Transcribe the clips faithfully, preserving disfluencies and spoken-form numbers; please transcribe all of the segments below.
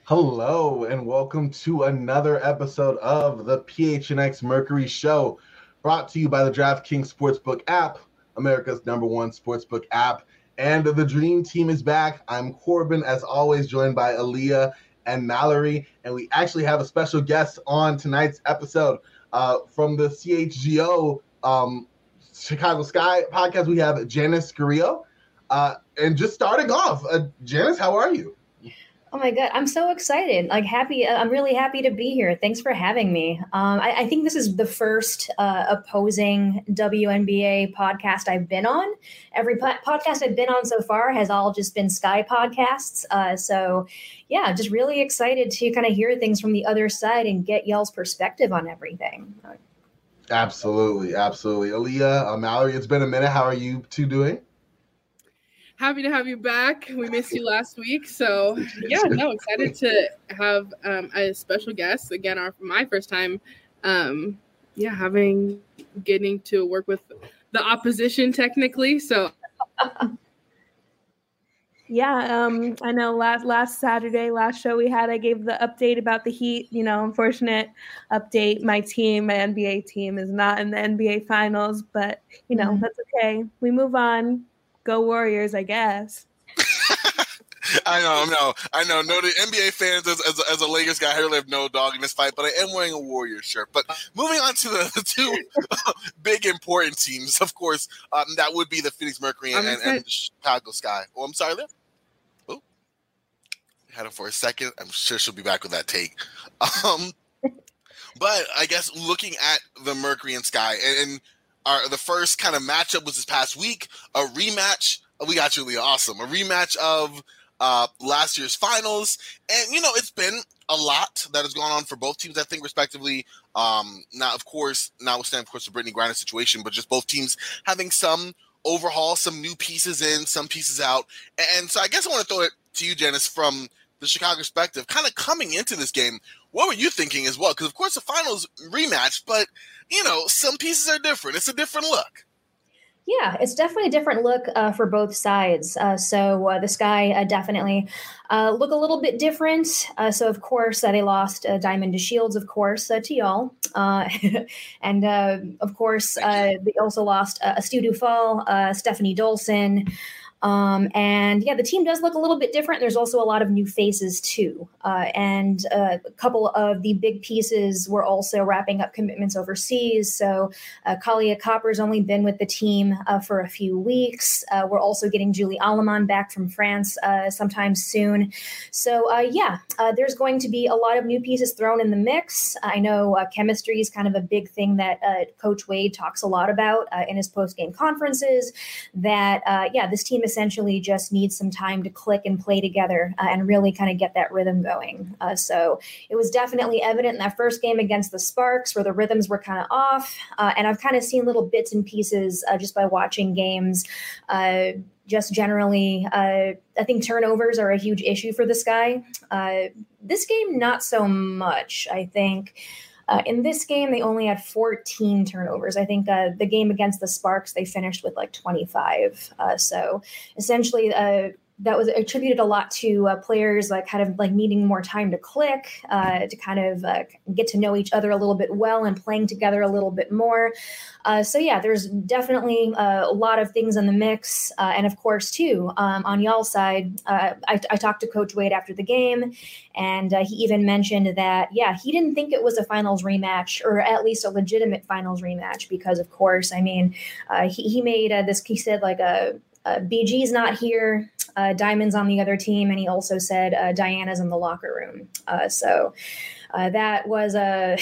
Hello and welcome to another episode of the P H N X Mercury Show, brought to you by the DraftKings Sportsbook app, America's number one sportsbook app. And the Dream Team is back. I'm Corbin, as always, joined by Aaliyah and Mallory. And we actually have a special guest on tonight's episode uh, from the C H G O um, Chicago Sky podcast. We have Janice Carrillo. Uh, and just starting off, uh, Janice, how are you? Oh my God, I'm so excited. Like happy. I'm really happy to be here. Thanks for having me. Um, I, I think this is the first uh, opposing W N B A podcast I've been on. Every po- podcast I've been on so far has all just been Sky podcasts. Uh, so yeah, just really excited to kind of hear things from the other side and get y'all's perspective on everything. Absolutely. Absolutely. Aaliyah, uh, Mallory, it's been a minute. How are you two doing? Happy to have you back. We missed you last week. So, yeah, no, excited to have um, a special guest. Again, our my first time, um, yeah, having, getting to work with the opposition technically. So, yeah, um, I know last last Saturday, last show we had, I gave the update about the Heat. You know, unfortunate update. My team, my N B A team, is not in the N B A Finals, but, you know, mm-hmm. that's okay. We move on. Go Warriors, I guess. I know, I know, I know. No, the N B A fans, as, as, as a Lakers guy, I really have no dog in this fight, but I am wearing a Warriors shirt. But moving on to the, the two big important teams, of course, um, that would be the Phoenix Mercury and, and, and the Chicago Sky. Oh, I'm sorry, there. Oh, had her for a second. I'm sure she'll be back with that take. Um, but I guess looking at the Mercury and Sky, and, and Our, the first kind of matchup was this past week, a rematch. We got you, Leah. Awesome. A rematch of uh, last year's finals. And, you know, it's been a lot that has gone on for both teams, I think, respectively. Um, now, of course, notwithstanding, of course, the Brittany Griner situation, but just both teams having some overhaul, some new pieces in, some pieces out. And so I guess I want to throw it to you, Janice, from the Chicago perspective, kind of coming into this game. What were you thinking as well? Because, of course, the finals rematch, but, you know, some pieces are different. It's a different look. Yeah, it's definitely a different look uh, for both sides. Uh, so uh, the Sky uh, definitely uh, look a little bit different. Uh, so, of course, uh, they lost uh, Diamond DeShields, of course, uh, to y'all. Uh, and, uh, of course, uh, they also lost uh, Astu Dufal, uh, Stephanie Dolson. Um, and yeah, the team does look a little bit different. There's also a lot of new faces too. Uh, and uh, a couple of the big pieces were also wrapping up commitments overseas. So uh, Kalia Copper's only been with the team uh, for a few weeks. Uh, we're also getting Julie Aleman back from France uh, sometime soon. So uh, yeah, uh, there's going to be a lot of new pieces thrown in the mix. I know uh, chemistry is kind of a big thing that uh, Coach Wade talks a lot about uh, in his post-game conferences, that uh, yeah, this team essentially just needs some time to click and play together uh, and really kind of get that rhythm going. Uh, so it was definitely evident in that first game against the Sparks where the rhythms were kind of off. Uh, and I've kind of seen little bits and pieces uh, just by watching games. Uh, just generally, uh, I think turnovers are a huge issue for the Sky. Uh, this game, not so much, I think. Uh, in this game, they only had fourteen turnovers. I think uh, the game against the Sparks, they finished with like twenty-five. Uh, so essentially, uh, that was attributed a lot to uh, players like kind of like needing more time to click, uh, to kind of uh, get to know each other a little bit well and playing together a little bit more. Uh, so yeah, there's definitely uh, a lot of things in the mix. Uh, and of course, too, um, on y'all's side, uh, I, I talked to Coach Wade after the game, and uh, he even mentioned that, yeah, he didn't think it was a finals rematch, or at least a legitimate finals rematch, because of course, I mean, uh, he, he made uh, this, he said like a, Uh, B G's not here, uh, Diamond's on the other team, and he also said uh, Diana's in the locker room. Uh, so uh, that was a,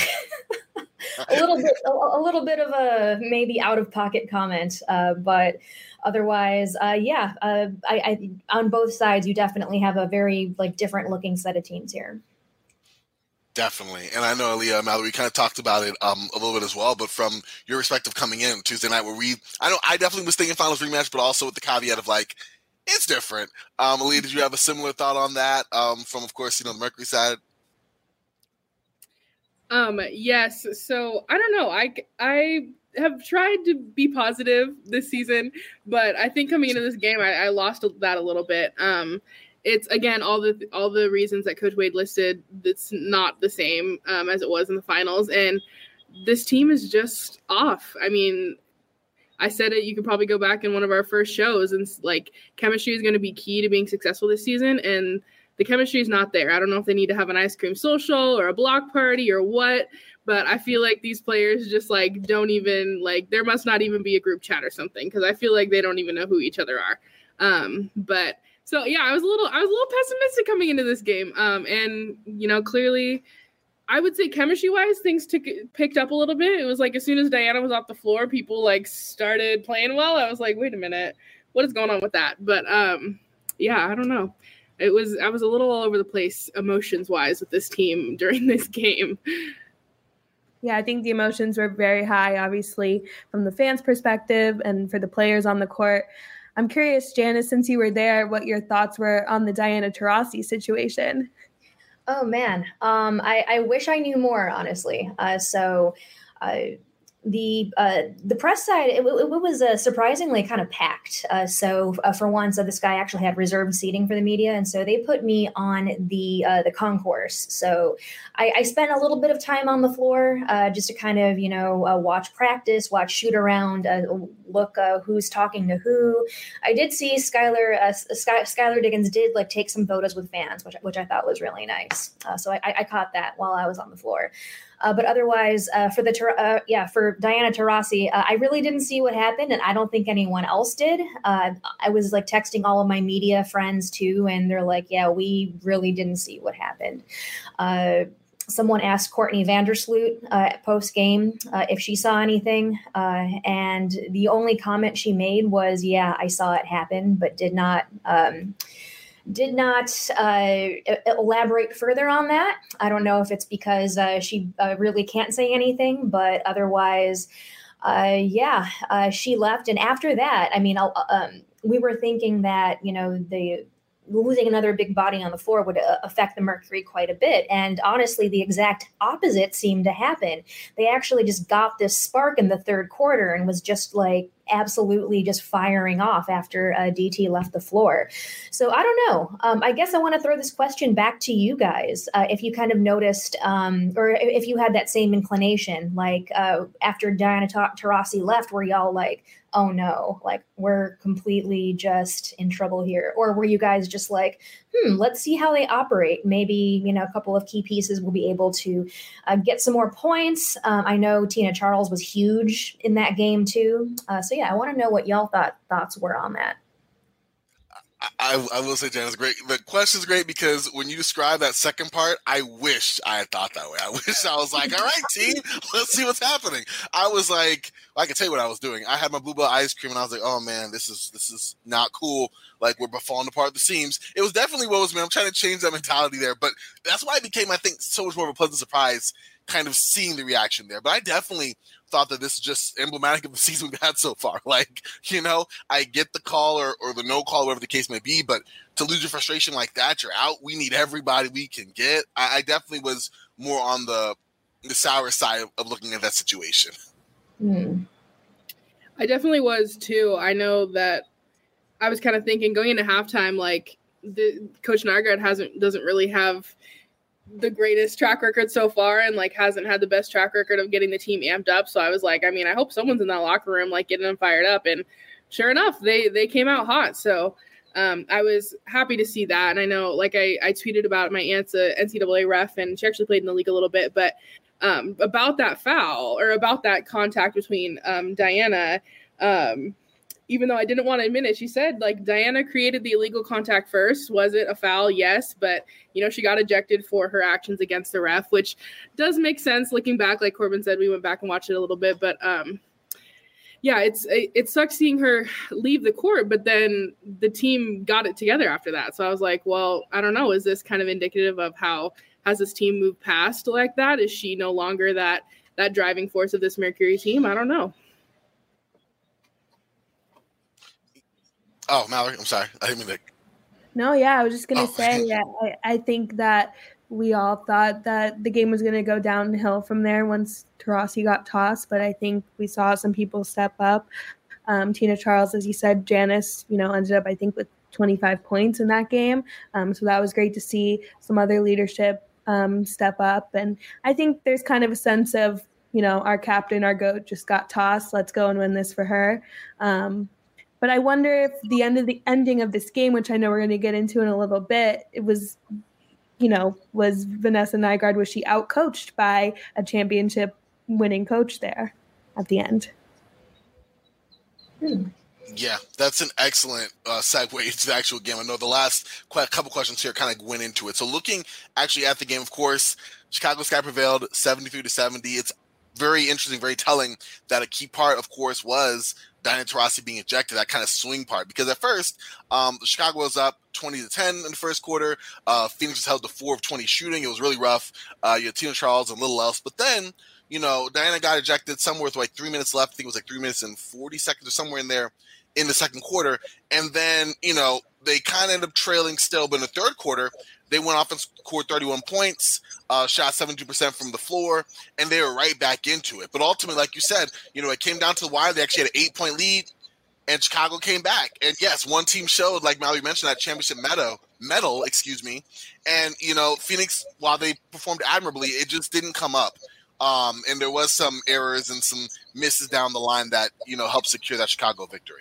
a little bit, a, a little bit of a maybe out of pocket comment, uh, but otherwise, uh, yeah, uh, I, I on both sides, you definitely have a very like different looking set of teams here. Definitely. And I know, Aaliyah, Mallory, we kind of talked about it um, a little bit as well, but from your perspective coming in Tuesday night where we, I know I definitely was thinking finals rematch, but also with the caveat of like, it's different. Um, Aaliyah, did you have a similar thought on that um, from, of course, you know, the Mercury side? Um, yes. So I don't know. I, I have tried to be positive this season, but I think coming into this game, I, I lost that a little bit. Um, it's again all the all the reasons that Coach Wade listed. It's not the same um, as it was in the finals, and this team is just off. I mean, I said it. You can probably go back in one of our first shows, and like chemistry is going to be key to being successful this season, and the chemistry is not there. I don't know if they need to have an ice cream social or a block party or what, but I feel like these players just like don't even like, there must not even be a group chat or something, because I feel like they don't even know who each other are. Um, but so yeah, I was a little, I was a little pessimistic coming into this game. Um, and you know, clearly, I would say chemistry wise, things took picked up a little bit. It was like as soon as Diana was off the floor, people like started playing well. I was like, wait a minute, what is going on with that? But um, yeah, I don't know. It was I was a little all over the place emotions wise with this team during this game. Yeah, I think the emotions were very high, obviously, from the fans' perspective and for the players on the court. I'm curious, Janice, since you were there, what your thoughts were on the Diana Taurasi situation. Oh, man. Um, I, I wish I knew more, honestly. Uh, so uh, the uh, the press side, it, it, it was uh, surprisingly kind of packed. Uh, so uh, for once, uh, this guy actually had reserved seating for the media. And so they put me on the uh, the concourse. So I, I spent a little bit of time on the floor uh, just to kind of, you know, uh, watch practice, watch shoot around, uh, look uh, who's talking to who. I did see Skylar, uh, Sky, Skylar Diggins did like take some photos with fans, which, which I thought was really nice. Uh, so I, I caught that while I was on the floor. Uh, but otherwise, uh, for the uh, yeah for Diana Taurasi, uh, I really didn't see what happened, and I don't think anyone else did. Uh, I was like texting all of my media friends too, and they're like, "Yeah, we really didn't see what happened." Uh, someone asked Courtney Vandersloot uh, post game uh, if she saw anything, uh, and the only comment she made was, "Yeah, I saw it happen," but did not. Um, Did not uh, elaborate further on that. I don't know if it's because uh, she uh, really can't say anything, but otherwise, uh, yeah, uh, she left. And after that, I mean, um, we were thinking that, you know, the losing another big body on the floor would uh, affect the Mercury quite a bit. And honestly, the exact opposite seemed to happen. They actually just got this spark in the third quarter and was just like, absolutely just firing off after uh, D T left the floor. So I don't know. Um, I guess I want to throw this question back to you guys. Uh, if you kind of noticed um, or if you had that same inclination, like uh, after Diana Taurasi left, were y'all like, oh no, like we're completely just in trouble here? Or were you guys just like, hmm, let's see how they operate. Maybe, you know, a couple of key pieces will be able to uh, get some more points. Um, I know Tina Charles was huge in that game too. Uh, so yeah, I want to know what y'all thought thoughts were on that. I, I will say, Janice, great. The question is great because when you describe that second part, I wish I had thought that way. I wish I was like, all right, team, let's see what's happening. I was like, well, I can tell you what I was doing. I had my Bluebell ice cream, and I was like, oh man, this is this is not cool. Like we're falling apart at the seams. It was definitely what was me. I'm trying to change that mentality there, but that's why it became, I think, so much more of a pleasant surprise, kind of seeing the reaction there. But I definitely thought that this is just emblematic of the season we've had so far. Like, you know, I get the call or, or the no call, whatever the case may be, but to lose your frustration like that, you're out. We need everybody we can get. I, I definitely was more on the the sour side of, of looking at that situation. Mm. I definitely was too. I know that I was kind of thinking going into halftime, like the Coach Nygaard hasn't doesn't really have the greatest track record so far and like hasn't had the best track record of getting the team amped up. So I was like, I mean, I hope someone's in that locker room, like getting them fired up. And sure enough, they, they came out hot. So um, I was happy to see that. And I know, like I, I tweeted about my aunt's a N C double A ref and she actually played in the league a little bit, but um, about that foul or about that contact between um, Diana, um, even though I didn't want to admit it, she said, like, Diana created the illegal contact first. Was it a foul? Yes. But, you know, she got ejected for her actions against the ref, which does make sense looking back. Like Corbin said, we went back and watched it a little bit. But, um, yeah, it's it, it sucks seeing her leave the court. But then the team got it together after that. So I was like, well, I don't know. Is this kind of indicative of how has this team moved past like that? Is she no longer that that driving force of this Mercury team? I don't know. Oh, Mallory, I'm sorry. I didn't mean to. No, yeah, I was just going to oh. say, yeah, I, I think that we all thought that the game was going to go downhill from there once Taurasi got tossed, but I think we saw some people step up. Um, Tina Charles, as you said, Janice, you know, ended up, I think, with twenty-five points in that game. Um, so that was great to see some other leadership um, step up. And I think there's kind of a sense of, you know, our captain, our GOAT just got tossed. Let's go and win this for her. Um, but I wonder if the end of the ending of this game, which I know we're going to get into in a little bit, it was, you know, was Vanessa Nygaard, was she outcoached by a championship winning coach there at the end? Hmm. Yeah, that's an excellent uh, segue into the actual game. I know the last qu- couple questions here kind of went into it. So looking actually at the game, of course, Chicago Sky prevailed seventy-three to seventy. It's very interesting, very telling that a key part, of course, was Diana Taurasi being ejected, that kind of swing part. Because at first, um, Chicago was up twenty to ten in the first quarter. Uh, Phoenix was held to four of twenty shooting. It was really rough. Uh, you had Tina Charles and little else. But then, you know, Diana got ejected somewhere with like three minutes left. I think it was like three minutes and forty seconds or somewhere in there in the second quarter. And then, you know, they kind of ended up trailing still. But in the third quarter, they went off and scored thirty-one points, uh, shot seventy-two percent from the floor, and they were right back into it. But ultimately, like you said, you know, it came down to the wire. They actually had an eight-point lead, and Chicago came back. And, yes, one team showed, like Mallory mentioned, that championship medal, medal, excuse me. And, you know, Phoenix, while they performed admirably, it just didn't come up. Um, and there was some errors and some misses down the line that, you know, helped secure that Chicago victory.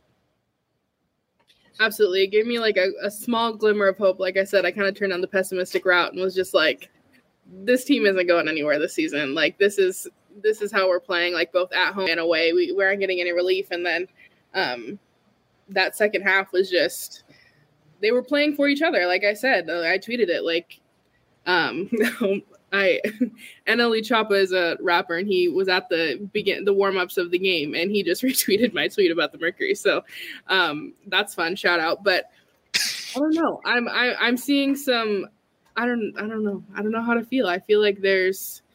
Absolutely. It gave me like a, a small glimmer of hope. Like I said, I kind of turned on the pessimistic route and was just like, this team isn't going anywhere this season. Like this is, this is how we're playing, like both at home and away. We, we aren't getting any relief. And then um, that second half was just, they were playing for each other. Like I said, I tweeted it like, um, I N L E Choppa is a rapper, and he was at the begin the warm-ups of the game, and he just retweeted my tweet about the Mercury. So um, that's fun. Shout out. But I don't know. I'm I, I'm seeing some. I don't I don't know. I don't know how to feel. I feel like there's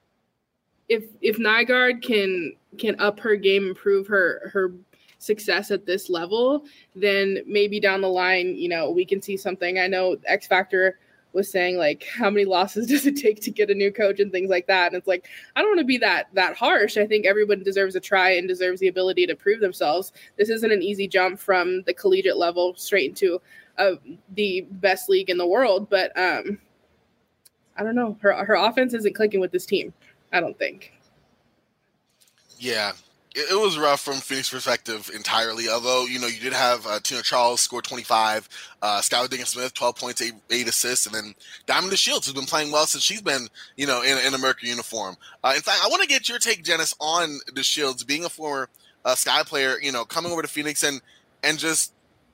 if if Nygaard can can up her game, improve her her success at this level, then maybe down the line, you know, we can see something. I know X Factor was saying like, how many losses does it take to get a new coach and things like that. And it's like, I don't want to be that, that harsh. I think everyone deserves a try and deserves the ability to prove themselves. This isn't an easy jump from the collegiate level straight into uh, the best league in the world. But um, I don't know. Her, her offense isn't clicking with this team, I don't think. Yeah. It was rough from Phoenix perspective entirely, although, you know, you did have uh, Tina Charles score twenty-five, uh, Skylar Diggins-Smith, twelve points, eight, eight assists, and then Diamond DeShields, who's been playing well since she's been, you know, in, in a Mercury uniform. Uh, in fact, I want to get your take, Janice, on DeShields, being a former uh, Sky player, you know, coming over to Phoenix and and just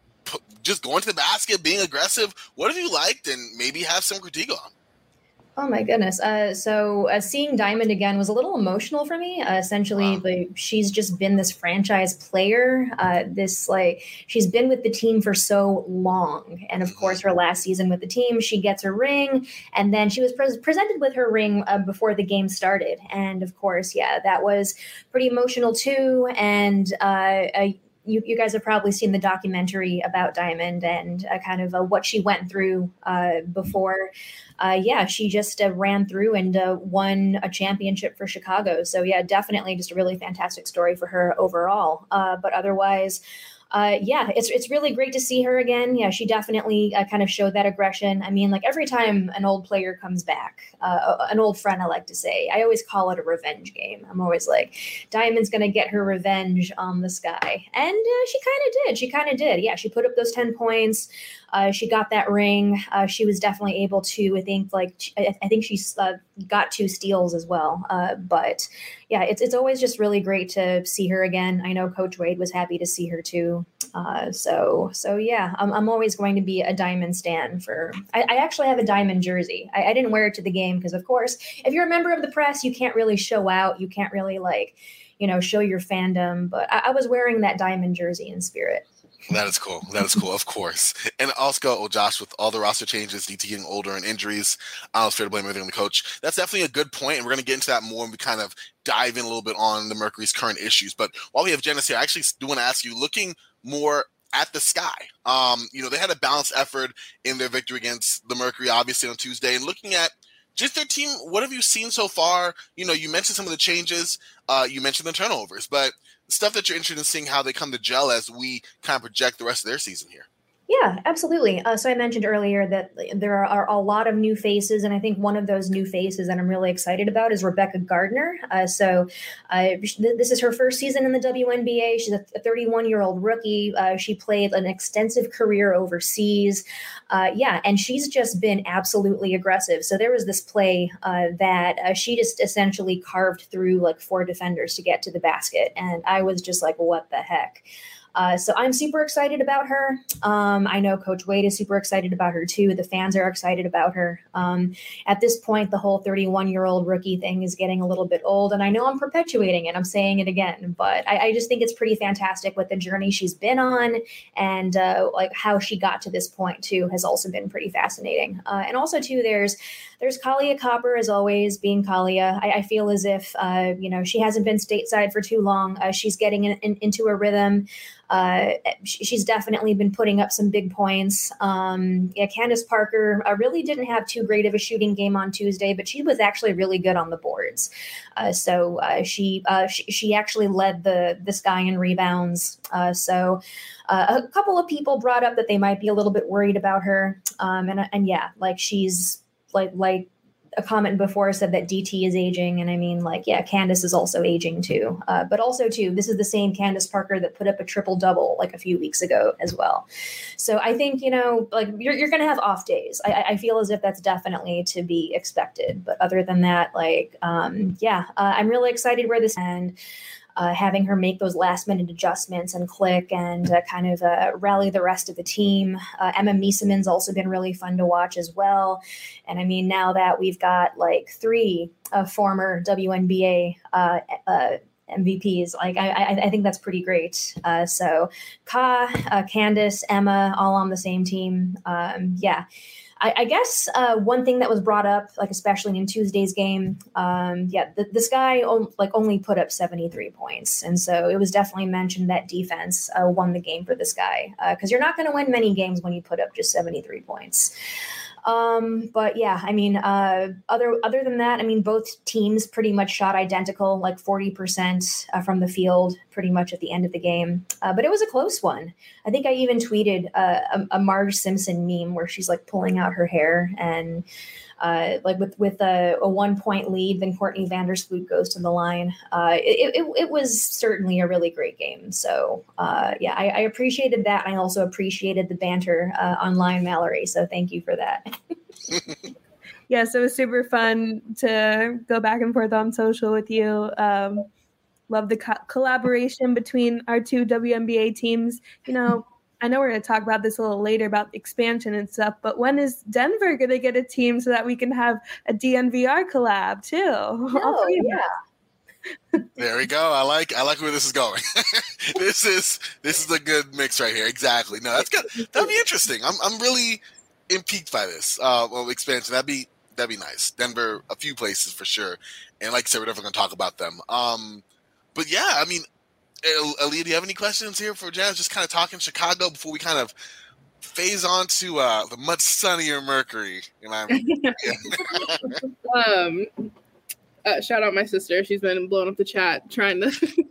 just going to the basket, being aggressive. What have you liked and maybe have some critique on? Oh my goodness. Uh, so uh, seeing Diamond again was a little emotional for me. Uh, essentially, Wow. like she's just been this franchise player. Uh, this like she's been with the team for so long, and of course, her last season with the team, she gets her ring, and then she was pre- presented with her ring uh, before the game started, and of course, yeah, that was pretty emotional too. And uh, uh, You, you guys have probably seen the documentary about Diamond and uh, kind of uh, what she went through uh, before. Uh, yeah, she just uh, ran through and uh, won a championship for Chicago. So yeah, definitely just a really fantastic story for her overall. Uh, but otherwise, uh, yeah, it's it's really great to see her again. Yeah, she definitely uh, kind of showed that aggression. I mean, like every time an old player comes back, uh, an old friend, I like to say, I always call it a revenge game. I'm always like, Diamond's going to get her revenge on the Sky. And uh, she kind of did. She kind of did. Yeah, she put up those ten points. Uh, she got that ring. Uh, she was definitely able to, I think, like, I, I think she uh, got two steals as well. Uh, but yeah, it's it's always just really great to see her again. I know Coach Wade was happy to see her too. Uh, so so yeah, I'm I'm always going to be a Diamond stan for. I, I actually have a Diamond jersey. I, I didn't wear it to the game because, of course, if you're a member of the press, you can't really show out. You can't really like, you know, show your fandom. But I, I was wearing that Diamond jersey in spirit. That is cool. That is cool, of course. And also, oh, Josh, with all the roster changes, D T getting older and injuries, I was fair to blame everything on the coach. That's definitely a good point, and we're going to get into that more when we kind of dive in a little bit on the Mercury's current issues. But while we have Janice here, I actually do want to ask you, looking more at the Sky, um, you know, they had a balanced effort in their victory against the Mercury, obviously, on Tuesday, and looking at just their team, what have you seen so far? You know, you mentioned some of the changes, uh, you mentioned the turnovers, but stuff that you're interested in seeing how they come to gel as we kind of project the rest of their season here. Yeah, absolutely. Uh, so I mentioned earlier that there are a lot of new faces, and I think one of those new faces that I'm really excited about is Rebecca Gardner. Uh, so uh, this is her first season in the W N B A. She's a thirty-one-year-old rookie. Uh, she played an extensive career overseas. Uh, yeah, and she's just been absolutely aggressive. So there was this play uh, that uh, she just essentially carved through like four defenders to get to the basket, and I was just like, what the heck? Uh, so I'm super excited about her. Um, I know Coach Wade is super excited about her too. The fans are excited about her. Um, at this point, the whole thirty-one-year-old rookie thing is getting a little bit old, and I know I'm perpetuating it. I'm saying it again, but I, I just think it's pretty fantastic with the journey she's been on, and uh, like how she got to this point too has also been pretty fascinating. Uh, and also too, there's there's Kalia Copper, as always, being Kalia. I, I feel as if uh, you know she hasn't been stateside for too long. Uh, she's getting in, in, into a rhythm. Uh, she's definitely been putting up some big points. Um, yeah, Candace Parker uh, really didn't have too great of a shooting game on Tuesday, but she was actually really good on the boards. Uh, so uh, she, uh, she she actually led the the Sky in rebounds. Uh, so uh, a couple of people brought up that they might be a little bit worried about her. Um, and and yeah, like she's like like. a comment before said that D T is aging. And I mean, like, yeah, Candace is also aging too. Uh, but also too, this is the same Candace Parker that put up a triple double like a few weeks ago as well. So I think, you know, like you're, you're going to have off days. I, I feel as if that's definitely to be expected. But other than that, like, um, yeah, uh, I'm really excited where this and Uh, having her make those last minute adjustments and click and uh, kind of uh, rally the rest of the team. Uh, Emma Mieseman's also been really fun to watch as well. And I mean, now that we've got like three uh, former W N B A uh, uh, M V Ps, like I, I, I think that's pretty great. Uh, so Ka, uh, Candace, Emma, all on the same team. Um, yeah. I, I guess uh, one thing that was brought up, like especially in Tuesday's game, um, yeah, the, this guy o- like only put up seventy-three points, and so it was definitely mentioned that defense uh, won the game for this guy because uh, you're not going to win many games when you put up just seventy-three points. Um, but yeah, I mean, uh, other other than that, I mean, both teams pretty much shot identical, like forty percent uh, from the field, pretty much at the end of the game. Uh, but it was a close one. I think I even tweeted uh, a, a Marge Simpson meme where she's like pulling out her hair and uh, like with with a, a one point lead, then Courtney Vandersloot goes to the line. Uh, it, it it was certainly a really great game. So uh, yeah, I, I appreciated that. I also appreciated the banter uh, online, Mallory. So thank you for that. Yes, it was super fun to go back and forth on social with you. Um, love the co- collaboration between our two W N B A teams. You know, I know we're going to talk about this a little later about expansion and stuff, but when is Denver going to get a team so that we can have a D N V R collab too? Oh, yeah. There we go. I like I like where this is going. this is this is a good mix right here. Exactly. No, that's good. That'd be interesting. I'm I'm really intrigued by this uh well, expansion. That'd be that'd be nice. Denver, a few places for sure. And like I said, we're definitely gonna talk about them. Um but yeah, I mean, Aaliyah, do you have any questions here for Jazz? Just kind of talking Chicago before we kind of phase on to uh, the much sunnier Mercury. You know what I mean? Yeah. um, uh, shout out my sister. She's been blowing up the chat trying to. Shout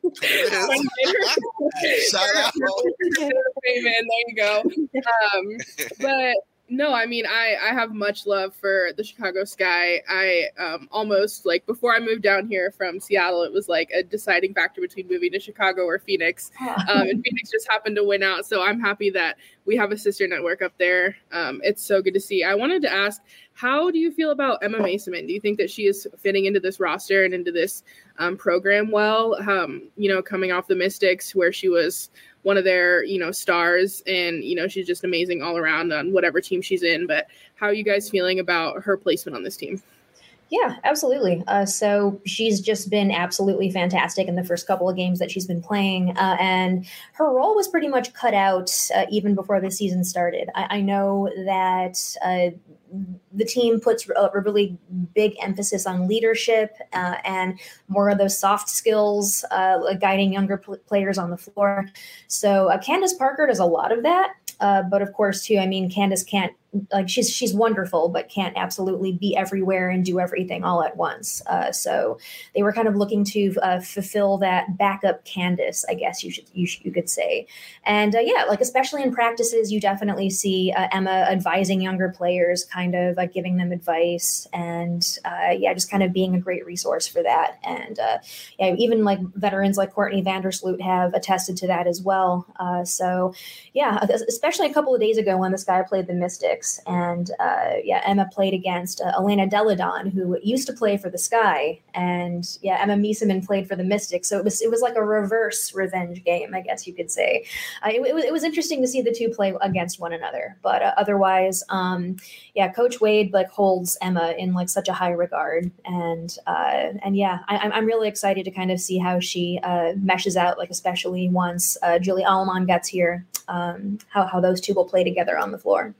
out. There you go. Um, but no, I mean, I, I have much love for the Chicago Sky. I um, almost, like, before I moved down here from Seattle, it was like a deciding factor between moving to Chicago or Phoenix. Um, and Phoenix just happened to win out. So I'm happy that we have a sister network up there. Um, it's so good to see. I wanted to ask, how do you feel about Emma Mieseman? Do you think that she is fitting into this roster and into this um, program well? Um, you know, coming off the Mystics where she was one of their, you know, stars, and, you know, she's just amazing all around on whatever team she's in. But how are you guys feeling about her placement on this team? Yeah, absolutely. Uh, so she's just been absolutely fantastic in the first couple of games that she's been playing. Uh, and her role was pretty much cut out uh, even before the season started. I, I know that uh, the team puts a really big emphasis on leadership uh, and more of those soft skills, uh, like guiding younger pl- players on the floor. So uh, Candace Parker does a lot of that. Uh, but of course, too, I mean, Candace can't like she's she's wonderful, but can't absolutely be everywhere and do everything all at once. Uh, so they were kind of looking to uh, fulfill that backup Candace, I guess you should you, should, you could say. And uh, yeah, like especially in practices, you definitely see uh, Emma advising younger players, kind of like giving them advice, and uh, yeah, just kind of being a great resource for that. And uh, yeah, even like veterans like Courtney Vandersloot have attested to that as well. Uh, so yeah, especially a couple of days ago when this guy played the Mystics. And uh, yeah, Emma played against uh, Elena Deladon, who used to play for the Sky, and yeah, Emma Miesemann played for the Mystics. So it was it was like a reverse revenge game, I guess you could say. Uh, it, it, was, it was interesting to see the two play against one another, but uh, otherwise, um, yeah, Coach Wade like holds Emma in like such a high regard, and uh, and yeah, I, I'm really excited to kind of see how she uh, meshes out, like especially once uh, Julie Allman gets here, um, how how those two will play together on the floor.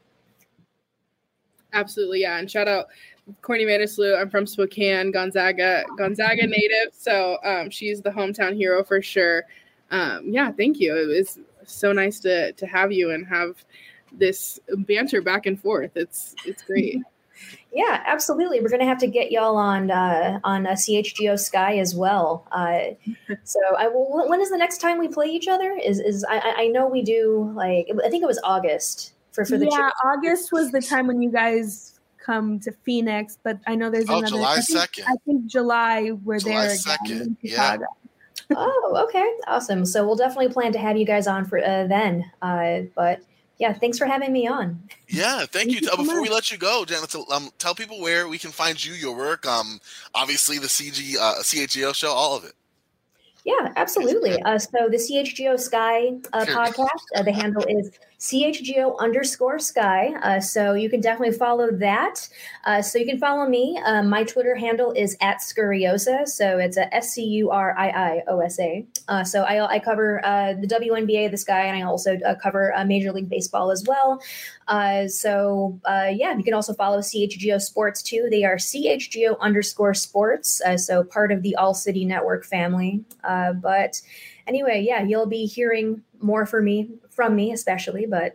Absolutely, yeah. And shout out Courtney Vandersloot. I'm from Spokane, Gonzaga, Gonzaga native. So um, she's the hometown hero for sure. Um, yeah, thank you. It was so nice to to have you and have this banter back and forth. It's it's great. Yeah, absolutely. We're going to have to get y'all on uh, on uh, C H G O Sky as well. Uh, so I will. When is the next time we play each other? Is is I, I know we do like I think it was August. For, for the yeah, Chicago. August was the time when you guys come to Phoenix, but I know there's oh, another. July I think, second. I think July we're July there second. again in Chicago. Yeah. Oh, okay, awesome. So we'll definitely plan to have you guys on for uh, then. Uh, but yeah, thanks for having me on. Yeah, thank, thank you. you. So Before much. we let you go, Janet, um, tell people where we can find you, your work. Um, obviously the C G uh, C H G O show, all of it. Yeah, absolutely. Uh, so the C H G O Sky uh, podcast, uh, the handle is C H G O underscore Sky. Uh, so you can definitely follow that. Uh, so you can follow me. Uh, my Twitter handle is at Scurriosa. So it's a S C U R I I O S A. Uh, so I, I cover uh, the W N B A, the Sky, and I also uh, cover uh, Major League Baseball as well. Uh, so uh, yeah, you can also follow C H G O Sports too. They are C H G O underscore Sports. Uh, so part of the All City Network family. Uh, but anyway, yeah, you'll be hearing more from me, from me especially, but.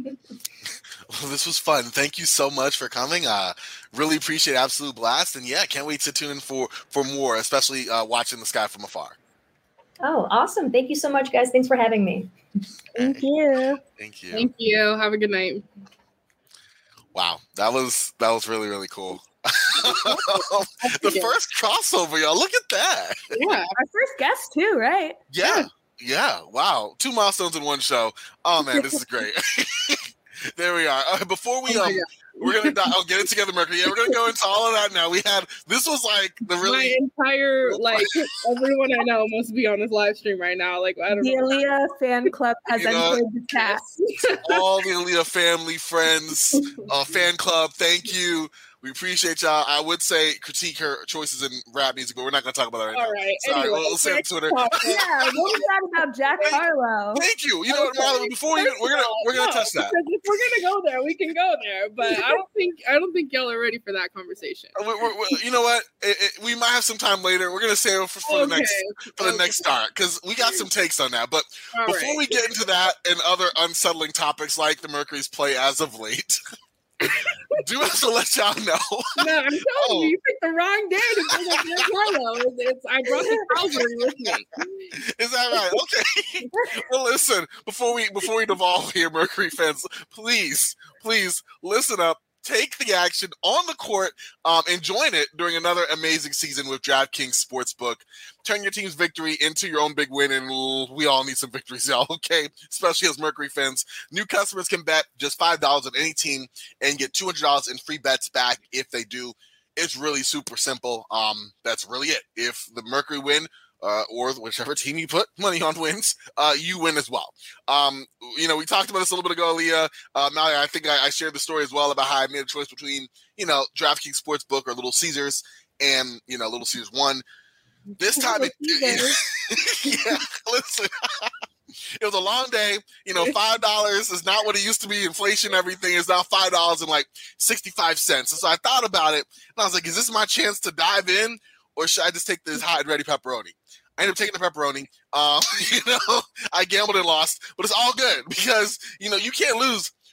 Well, this was fun. Thank you so much for coming. Uh, really appreciate it. Absolute blast. And yeah, can't wait to tune in for, for more, especially uh, watching the Sky from afar. Oh, awesome. Thank you so much, guys. Thanks for having me. Thank you. Thank you. Thank you. Have a good night. Wow. That was, that was really, really cool. The first crossover, y'all. Look at that. Yeah. Our first guest too, right? Yeah. Yeah. Wow. Two milestones in one show. Oh man, this is great. There we are. Uh, before we, um, we're going to, I'll get it together, Mercury. Yeah, we're going to go into all of that now. We had, this was like the really. My entire, like, everyone I know must be on this live stream right now. Like, I don't the know. The Aaliyah fan club has You know, entered the chat. All the Aaliyah family, friends, uh, fan club, thank you. We appreciate y'all. I would say critique her choices in rap music, but we're not going to talk about that right now. All right. Sorry, Anyway, we'll, we'll say on Twitter. Yeah, what was that about Jack Harlow? Thank you. You know what, Marlon? Before we, we're gonna we're gonna no, touch that. If we're gonna go there, we can go there. But I don't think I don't think y'all are ready for that conversation. We're, we're, we're, you know what? It, it, we might have some time later. We're gonna save it for, for Okay. the next for the Okay. next start because we got some takes on that. But All before right. we get into that and other unsettling topics like the Mercury's play as of late, do have to let y'all know. No, I'm telling Oh. you, you picked the wrong day to bring up Jack Harlow. It's, it's, I brought the Calvary with me. Is that right? Okay. Well, listen. Before we before we devolve here, Mercury fans, please, please listen up. Take the action on the court um, and join it during another amazing season with DraftKings Sportsbook. Turn your team's victory into your own big win, and we all need some victories, y'all, okay? Especially as Mercury fans. New customers can bet just five dollars on any team and get two hundred dollars in free bets back if they do. It's really super simple. Um, that's really it. If the Mercury win, Uh, or whichever team you put money on wins, uh, you win as well. Um, you know, we talked about this a little bit ago, Leah. Uh, Malia, I think I, I shared the story as well about how I made a choice between, you know, DraftKings Sportsbook or Little Caesars, and, you know, Little Caesars won. This time, it, it, yeah, listen, it was a long day. You know, five dollars is not what it used to be. Inflation, everything is now five dollars and like sixty-five cents. And so I thought about it, and I was like, is this my chance to dive in, or should I just take this hot and ready pepperoni? I ended up taking the pepperoni. Um, you know, I gambled and lost, but it's all good because, you know, you can't lose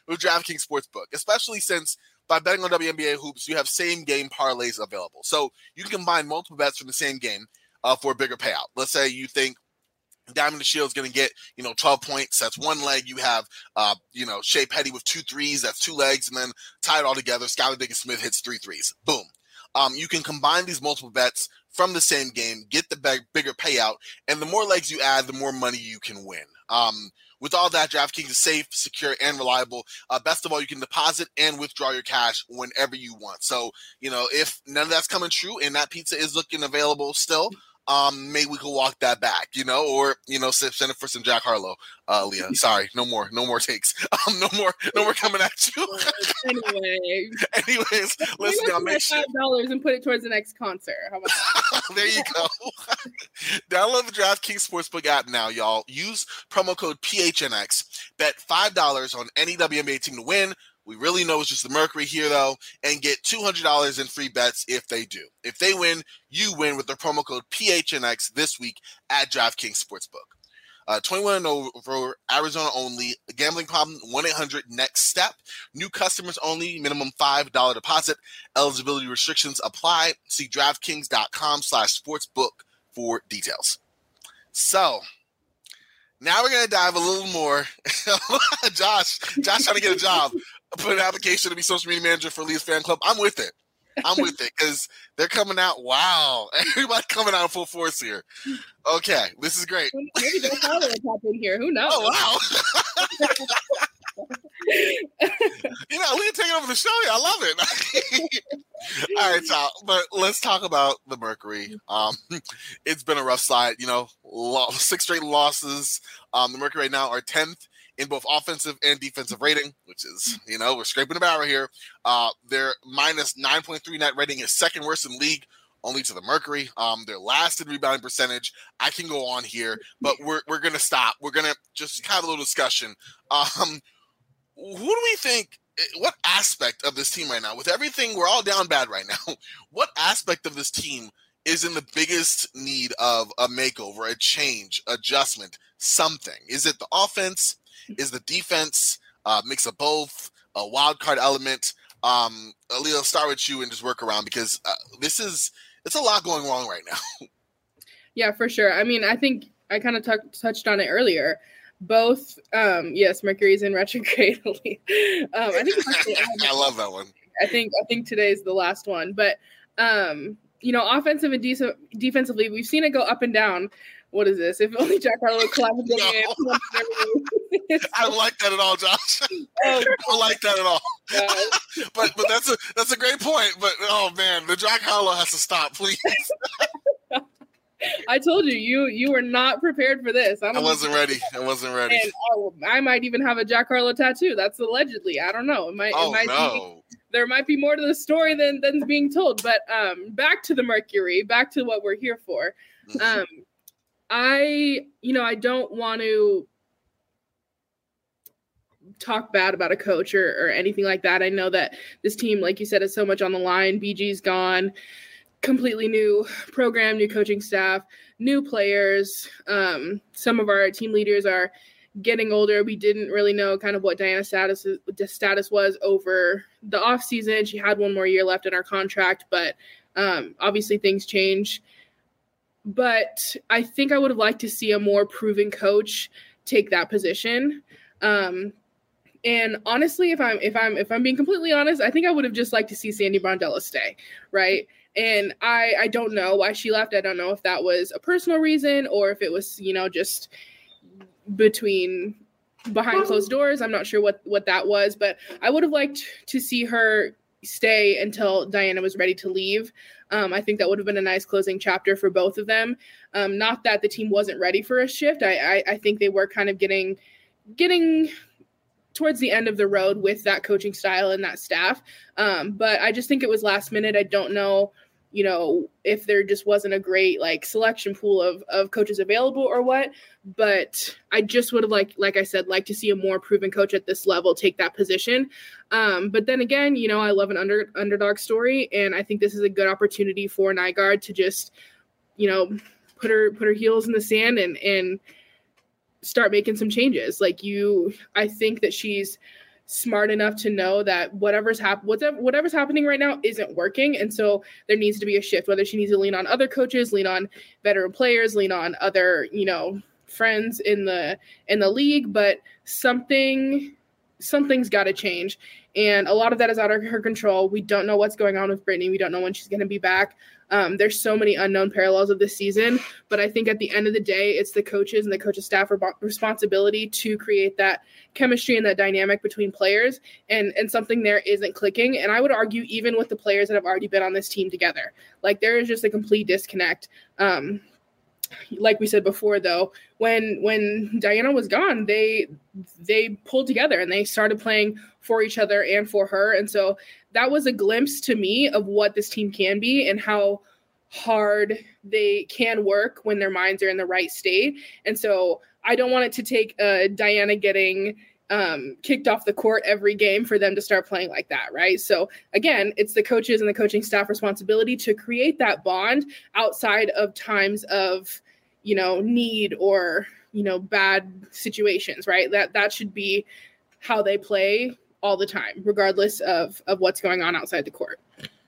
with DraftKings Sportsbook, especially since by betting on W N B A hoops, you have same game parlays available. So you can combine multiple bets from the same game uh, for a bigger payout. Let's say you think Diamond DeShields is going to get, you know, twelve points. That's one leg. You have, uh, you know, Shea Petty with two threes. That's two legs. And then tie it all together. Skylar Diggins-Smith hits three threes. Boom. Um, you can combine these multiple bets from the same game, get the big, bigger payout, and the more legs you add, the more money you can win. Um, with all that, DraftKings is safe, secure, and reliable. Uh, best of all, you can deposit and withdraw your cash whenever you want. So, you know, if none of that's coming true and that pizza is looking available still, Um, maybe we could walk that back, you know, or, you know, send it for some Jack Harlow, uh, Leah. Sorry, no more, no more takes. Um, no more, no more coming at you. Anyway. Anyways, listen, I'll make sure. five dollars and put it towards the next concert. How about that? There you go. Download the DraftKings Sportsbook app now, y'all. Use promo code P H N X. Bet five dollars on any W N B A team to win. We really know it's just the Mercury here, though, and get two hundred dollars in free bets if they do. If they win, you win with the promo code P H N X this week at DraftKings Sportsbook. Uh, twenty-one and over, Arizona only. Gambling problem, one eight hundred next step. New customers only, minimum five dollars deposit. Eligibility restrictions apply. See DraftKings.com slash sportsbook for details. So, now we're going to dive a little more. Josh, Josh trying to get a job. Put an application to be social media manager for Leah's fan club. I'm with it. I'm with it because they're coming out. Wow. Everybody coming out in full force here. Okay. This is great. Maybe they'll follow us up in here. Who knows? Oh, wow. You know, Leah taking over the show here. I love it. All right, so, but let's talk about the Mercury. Um, it's been a rough slide. You know, six straight losses. Um, the Mercury right now are tenth in both offensive and defensive rating, which is, you know, we're scraping the barrel here. Uh, their minus nine point three net rating is second worst in the league, only to the Mercury. Um, they're last in rebounding percentage. I can go on here, but we're we're gonna stop. We're gonna just have a little discussion. Um, who do we think? What aspect of this team right now, with everything, we're all down bad right now. What aspect of this team is in the biggest need of a makeover, a change, adjustment, something? Is it the offense? Is the defense, uh, mix of both, a wild card element? Um, Aaliyah, start with you and just work around because uh, this is, it's a lot going wrong right now. Yeah, for sure. I mean, I think I kind of t- touched on it earlier. Both, um, yes, Mercury's in retrograde. um, I think I love that one. I think I think today's the last one, but um, you know, offensive and de- defensively, we've seen it go up and down. What is this? If only Jack Harlow would collapse again. No. I don't like that at all, Josh. Oh, I don't like that at all. Uh, but but that's a that's a great point. But oh man, the Jack Harlow has to stop, please. I told you, you you were not prepared for this. I, don't I wasn't know. ready. I wasn't ready. And oh, I might even have a Jack Harlow tattoo. That's allegedly. I don't know. It might. Oh it might no. Be, there might be more to the story than than's being told. But um, back to the Mercury. Back to what we're here for. Um, I you know I don't want to talk bad about a coach or, or anything like that. I know that this team, like you said, is so much on the line. B G's gone. Completely new program, new coaching staff, new players. Um, some of our team leaders are getting older. We didn't really know kind of what Diana's status status was over the offseason. She had one more year left in our contract, but um, obviously things change. But I think I would have liked to see a more proven coach take that position. Um, and honestly, if I'm if I'm if I'm being completely honest, I think I would have just liked to see Sandy Brondello stay, right? And I, I don't know why she left. I don't know if that was a personal reason or if it was, you know, just between behind closed doors. I'm not sure what, what that was, but I would have liked to see her stay until Diana was ready to leave. Um, I think that would have been a nice closing chapter for both of them. Um, not that the team wasn't ready for a shift. I, I, I think they were kind of getting getting towards the end of the road with that coaching style and that staff. Um, but I just think it was last minute. I don't know, you know, if there just wasn't a great like selection pool of, of coaches available or what, but I just would have like, like I said, like to see a more proven coach at this level take that position. Um, but then again, you know, I love an under underdog story. And I think this is a good opportunity for Nygaard to just, you know, put her, put her heels in the sand and, and, start making some changes. Like you, I think that she's smart enough to know that whatever's hap- whatever, whatever's happening right now isn't working. And so there needs to be a shift, whether she needs to lean on other coaches, lean on veteran players, lean on other, you know, friends in the in the league. But something something's got to change. And a lot of that is out of her control. We don't know what's going on with Brittany. We don't know when she's going to be back. Um, there's so many unknown parallels of this season, but I think at the end of the day, it's the coaches and the coaching staff re- responsibility to create that chemistry and that dynamic between players, and, and something there isn't clicking. And I would argue even with the players that have already been on this team together, like there is just a complete disconnect. Um, like we said before, though, when when Diana was gone, they they pulled together and they started playing for each other and for her. And so that was a glimpse to me of what this team can be and how hard they can work when their minds are in the right state. And so I don't want it to take uh, Diana getting um, kicked off the court every game for them to start playing like that, right? So again, it's the coaches and the coaching staff responsibility to create that bond outside of times of, you know, need or, you know, bad situations, right? That that should be how they play all the time, regardless of, of what's going on outside the court.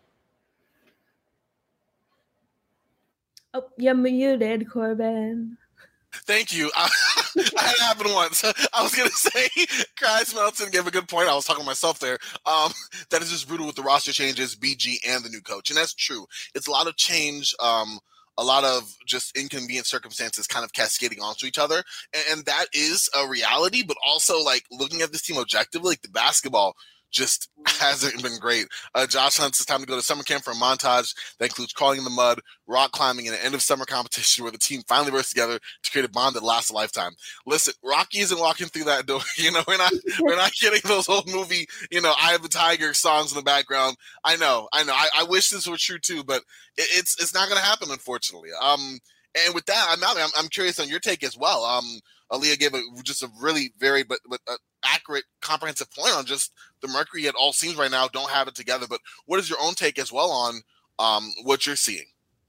Oh, you're muted, Corbin. Thank you. I, I had it happen once. I was going to say, Chris Melton gave a good point. I was talking to myself there. Um, that is just brutal with the roster changes, B G, and the new coach. And that's true. It's a lot of change, um, a lot of just inconvenient circumstances kind of cascading onto each other. And, and that is a reality, but also, like, looking at this team objectively, like, the basketball just hasn't been great. Uh, Josh Hunt says time to go to summer camp for a montage that includes crawling in the mud, rock climbing, and an end of summer competition where the team finally works together to create a bond that lasts a lifetime. Listen, Rocky isn't walking through that door. You know, we're not we're not getting those old movie, you know, Eye of the Tiger songs in the background. I know, I know. I, I wish this were true too, but it, it's it's not going to happen, unfortunately. Um, and with that, I'm, I'm I'm curious on your take as well. Um, Aaliyah gave a, just a really very but but uh, accurate, comprehensive point on just the Mercury at all seems right now don't have it together. But what is your own take as well on um, what you're seeing?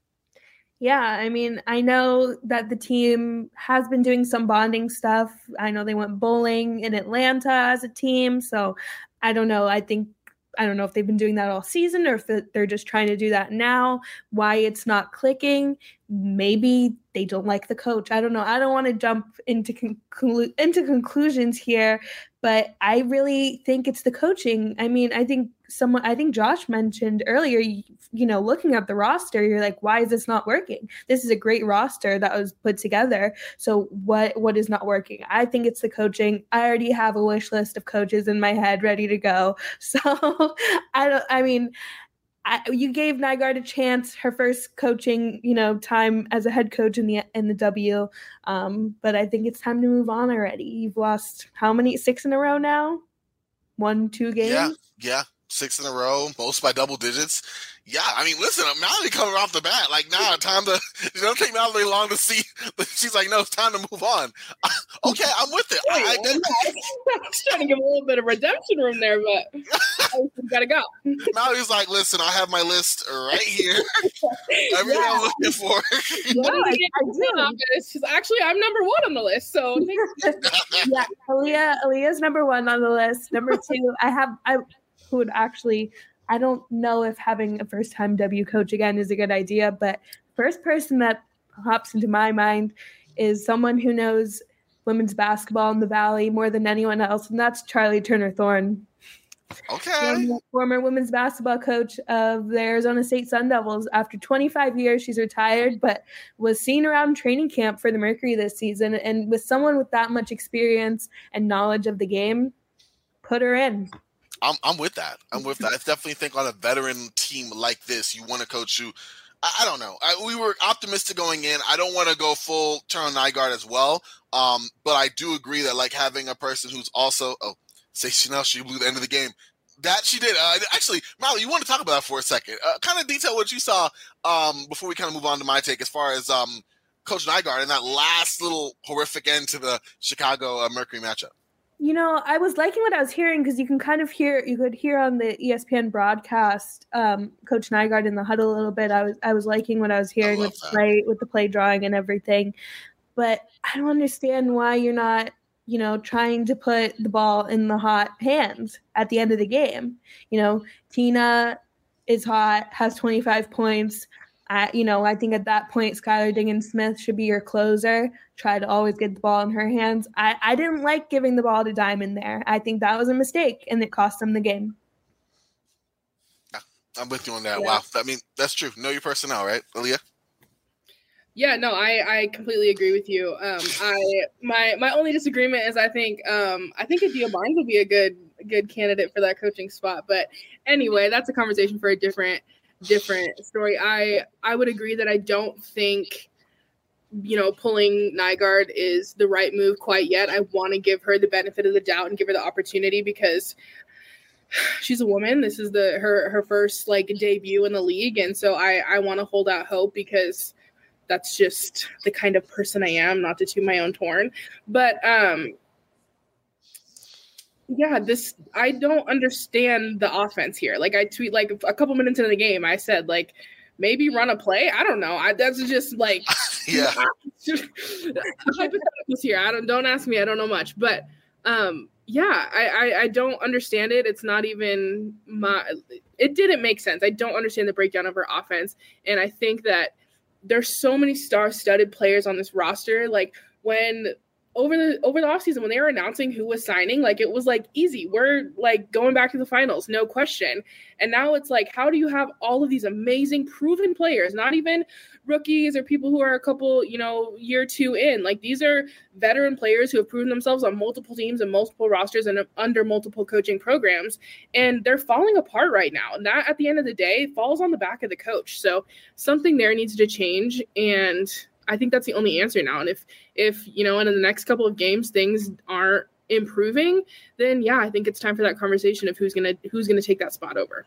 Yeah, I mean, I know that the team has been doing some bonding stuff. I know they went bowling in Atlanta as a team. So I don't know. I think I don't know if they've been doing that all season or if they're just trying to do that now. Why it's not clicking. Maybe they don't like the coach. I don't know. I don't want to jump into conclu- into conclusions here, but I really think it's the coaching. I mean, I think someone, I think Josh mentioned earlier, you, you know, looking at the roster, you're like, why is this not working? This is a great roster that was put together. So what what is not working? I think it's the coaching. I already have a wish list of coaches in my head ready to go. So I don't. I mean. I, you gave Nygaard a chance, her first coaching, you know, time as a head coach in the in the W. Um, but I think it's time to move on already. You've lost how many? Six in a row now? One, two games? Yeah, yeah. Six in a row, most by double digits. Yeah, I mean, listen, Mallory coming off the bat. Like, nah, time to, it don't take Mallory long to see. She's like, no, it's time to move on. Okay, I'm with it. Wait, I, I, I was trying to give a little bit of redemption room there, but I gotta go. Mallory's like, listen, I have my list right here. Everything Yeah. I'm looking for. Yeah, I, I do. It's just, actually, I'm number one on the list, so Yeah, Aaliyah, Aaliyah's number one on the list. Number two, I have, I would actually, I don't know if having a first-time W coach again is a good idea, but first person that hops into my mind is someone who knows women's basketball in the Valley more than anyone else, and that's Charlie Turner-Thorne. Okay. Former women's basketball coach of the Arizona State Sun Devils. After twenty-five years, she's retired, but was seen around training camp for the Mercury this season. And with someone with that much experience and knowledge of the game, put her in. I'm I'm with that. I'm with that. I definitely think on a veteran team like this, you want a coach who, I, I don't know. I, we were optimistic going in. I don't want to go full turn on Nygaard as well. Um, but I do agree that like having a person who's also, oh, say Chanel, she blew the end of the game. That she did. Uh, actually, Molly, you want to talk about that for a second? Uh, kind of detail what you saw um, before we kind of move on to my take as far as um, Coach Nygaard and that last little horrific end to the Chicago uh, Mercury matchup. You know, I was liking what I was hearing because you can kind of hear, you could hear on the E S P N broadcast, um, Coach Nygaard in the huddle a little bit. I was, I was liking what I was hearing with the play, with the play drawing and everything. But I don't understand why you're not you know, trying to put the ball in the hot hands at the end of the game. You know, Tina is hot, has twenty-five points. I, you know, I think at that point, Skylar Diggins-Smith should be your closer. Try to always get the ball in her hands. I, I didn't like giving the ball to Diamond there. I think that was a mistake, and it cost them the game. Yeah, I'm with you on that. Yeah. Wow. I mean, that's true. Know your personnel, right, Aaliyah? Yeah, no, I, I completely agree with you. Um, I my my only disagreement is I think um I think Adia Barnes would be a good good candidate for that coaching spot. But anyway, that's a conversation for a different different story. I I would agree that I don't think, you know, pulling Nygaard is the right move quite yet. I want to give her the benefit of the doubt and give her the opportunity because she's a woman. This is the her her first like debut in the league, and so I I want to hold out hope because that's just the kind of person I am, not to toot my own horn. But um, yeah, this I don't understand the offense here. Like I tweet like a couple minutes into the game, I said like maybe run a play. I don't know. I, that's just like yeah. hypotheticals here. I don't don't ask me. I don't know much, but um, yeah, I, I I don't understand it. It's not even my. It didn't make sense. I don't understand the breakdown of her offense, and I think that there's so many star-studded players on this roster. Like when over the over the offseason, when they were announcing who was signing, like it was like easy. We're like going back to the finals, no question. And now it's like, how do you have all of these amazing proven players, not even rookies or people who are a couple, you know, year two in? Like these are veteran players who have proven themselves on multiple teams and multiple rosters and under multiple coaching programs. And they're falling apart right now. And that at the end of the day falls on the back of the coach. So something there needs to change. And I think that's the only answer now. And if, if, you know, in the next couple of games, things aren't improving, then yeah, I think it's time for that conversation of who's going to, who's going to take that spot over.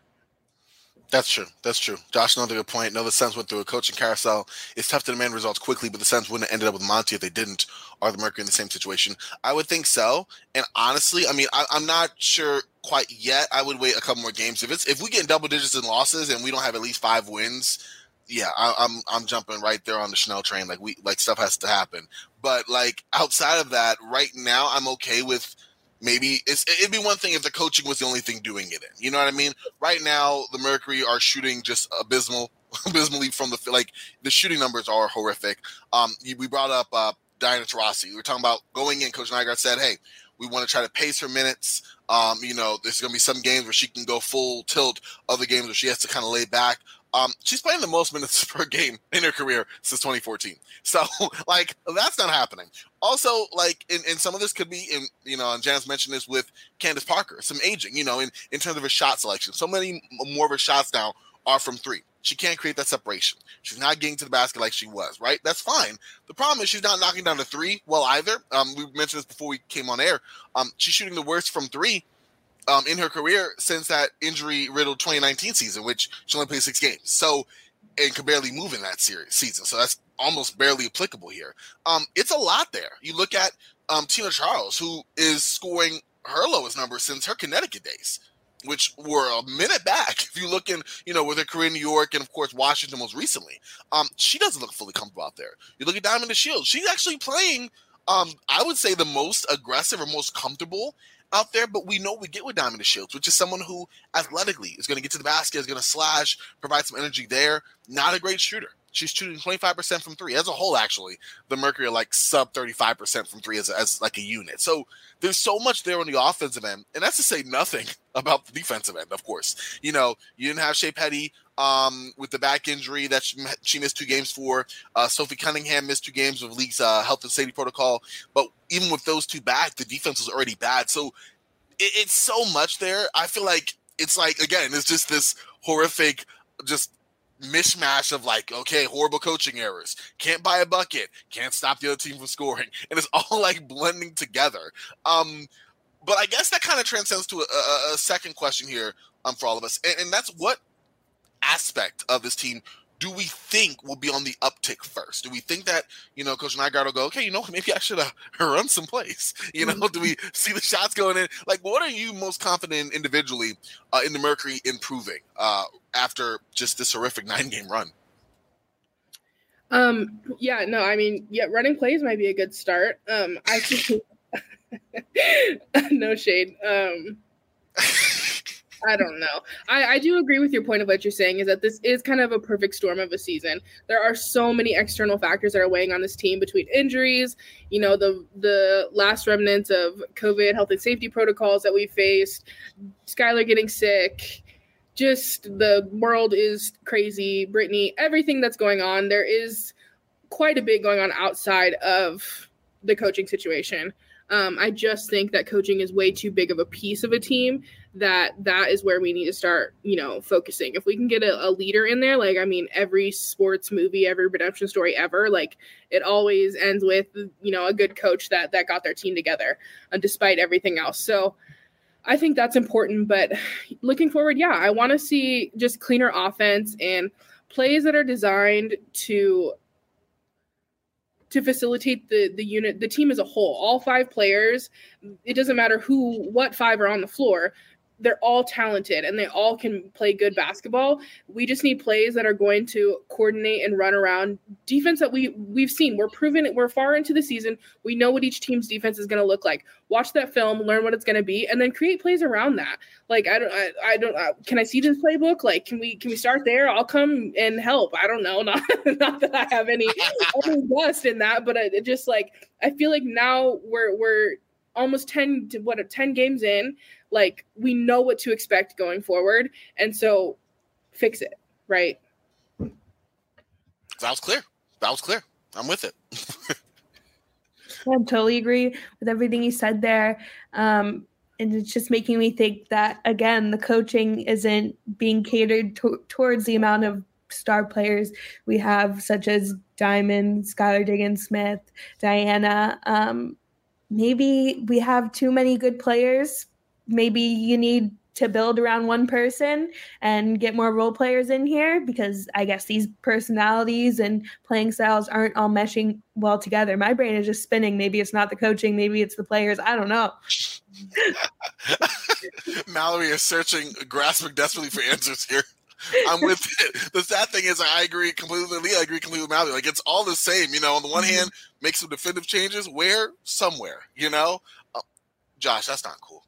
That's true. That's true. Josh, another good point. No, the Suns went through a coaching carousel. It's tough to demand results quickly, but the Suns wouldn't have ended up with Monty if they didn't. Are the Mercury in the same situation? I would think so. And honestly, I mean, I, I'm not sure quite yet. I would wait a couple more games. If it's if we get in double digits in losses and we don't have at least five wins, yeah, I, I'm I'm jumping right there on the Chanel train. Like we like stuff has to happen. But like outside of that, right now I'm okay with. Maybe it's, it'd be one thing if the coaching was the only thing doing it in. You know what I mean? Right now, the Mercury are shooting just abysmal, abysmally from the like the shooting numbers are horrific. Um, we brought up uh, Diana Taurasi. We were talking about going in. Coach Nygaard said, "Hey, we want to try to pace her minutes. Um, you know, there's going to be some games where she can go full tilt. Other games where she has to kind of lay back." Um, she's playing the most minutes per game in her career since twenty fourteen. So, like, that's not happening. Also, like, and, and some of this could be, in, you know, and Janice mentioned this with Candace Parker, some aging, you know, in, in terms of her shot selection. So many more of her shots now are from three. She can't create that separation. She's not getting to the basket like she was, right? That's fine. The problem is she's not knocking down the three well either. Um, we mentioned this before we came on air. Um, she's shooting the worst from three Um, in her career since that injury-riddled twenty nineteen season, which she only played six games. So, and could barely move in that series season. So that's almost barely applicable here. Um, it's a lot there. You look at um, Tina Charles, who is scoring her lowest number since her Connecticut days, which were a minute back. If you look in, you know, with her career in New York and, of course, Washington most recently, um, she doesn't look fully comfortable out there. You look at Diamond DeShields. She's actually playing, um, I would say, the most aggressive or most comfortable out there, but we know we get with Diamond DeShields, which is someone who athletically is going to get to the basket, is going to slash, provide some energy there. Not a great shooter. She's shooting twenty-five percent from three. As a whole, actually, the Mercury are like sub thirty-five percent from three as, as like a unit. So there's so much there on the offensive end, and that's to say nothing about the defensive end, of course. You know, you didn't have Shea Petty um, with the back injury that she, she missed two games for. Uh, Sophie Cunningham missed two games with league's uh, health and safety protocol. But even with those two back, the defense was already bad. So it, it's so much there. I feel like it's like, again, it's just this horrific just mishmash of like, okay, horrible coaching errors, can't buy a bucket, can't stop the other team from scoring, and it's all like blending together. Um, but I guess that kind of transcends to a, a, a second question here um, for all of us, and, and that's what aspect of this team do we think will be on the uptick first? Do we think that, you know, Coach Nygaard will go, okay, you know, maybe I should have run some plays? You know, do we see the shots going in? Like, what are you most confident in individually uh, in the Mercury improving uh, after just this horrific nine-game run? Um, yeah, no, I mean, yeah, running plays might be a good start. Um, I think No shade. Um, I don't know. I, I do agree with your point of what you're saying is that this is kind of a perfect storm of a season. There are so many external factors that are weighing on this team between injuries, you know, the the last remnants of COVID health and safety protocols that we faced, Skylar getting sick, just the world is crazy, Brittany, everything that's going on. There is quite a bit going on outside of the coaching situation. Um, I just think that coaching is way too big of a piece of a team that that is where we need to start, you know, focusing. If we can get a, a leader in there, like, I mean, every sports movie, every redemption story ever, like it always ends with, you know, a good coach that, that got their team together uh, despite everything else. So I think that's important, but looking forward, yeah, I want to see just cleaner offense and plays that are designed to to facilitate the the unit, the team as a whole. All five players, it doesn't matter who, what five are on the floor, they're all talented and they all can play good basketball. We just need plays that are going to coordinate and run around defense that we, we've seen. We're proven it. We're far into the season. We know what each team's defense is going to look like. Watch that film, learn what it's going to be, and then create plays around that. Like, I don't, I, I don't, uh, can I see this playbook? Like, can we, can we start there? I'll come and help. I don't know. Not, not that I have any, any gust in that, but it just like, I feel like now we're, we're almost ten to what, ten games in. Like, we know what to expect going forward. And so fix it, right? That was clear. That was clear. I'm with it. I totally agree with everything you said there. Um, and it's just making me think that, again, the coaching isn't being catered to- towards the amount of star players we have, such as Diamond, Skylar Diggins-Smith, Diana. Um, maybe we have too many good players. Maybe you need to build around one person and get more role players in here, because I guess these personalities and playing styles aren't all meshing well together. My brain is just spinning. Maybe it's not the coaching. Maybe it's the players. I don't know. Mallory is searching, grasping desperately for answers here. I'm with it. The sad thing is I agree completely with Leah. I agree completely with Mallory. Like, it's all the same. You know, on the one hand, make some definitive changes. Where? Somewhere. You know? Uh, Josh, that's not cool.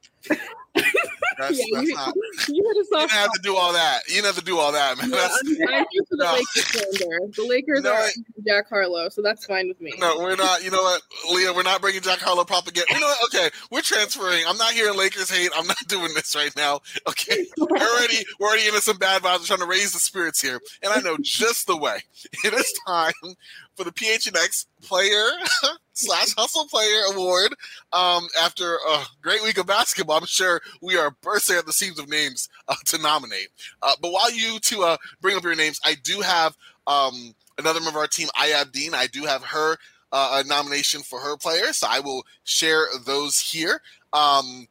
That's, yeah, that's you, not, you, you didn't have to do all that. You didn't have to do all that, man. Yeah, That's, I'm, I'm here for the no. Lakers slander. The Lakers No, are Jack Harlow, so that's fine with me. No, we're not. You know what, Leah? We're not bringing Jack Harlow propaganda. You know what? Okay, we're transferring. I'm not hearing Lakers hate. I'm not doing this right now. Okay, we're already we're already into some bad vibes. We're trying to raise the spirits here, and I know just the way. It is time for the P H N X Player slash Hustle Player Award. Um, after a great week of basketball, I'm sure we are bursting at the seams of names uh, to nominate. Uh, but while you two uh, bring up your names, I do have um, another member of our team, Ayab Dean. I do have her uh, a nomination for her player, so I will share those here. Um,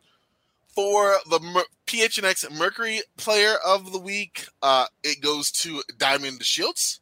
for the Mer- P H N X Mercury Player of the Week, uh, it goes to Diamond DeShields.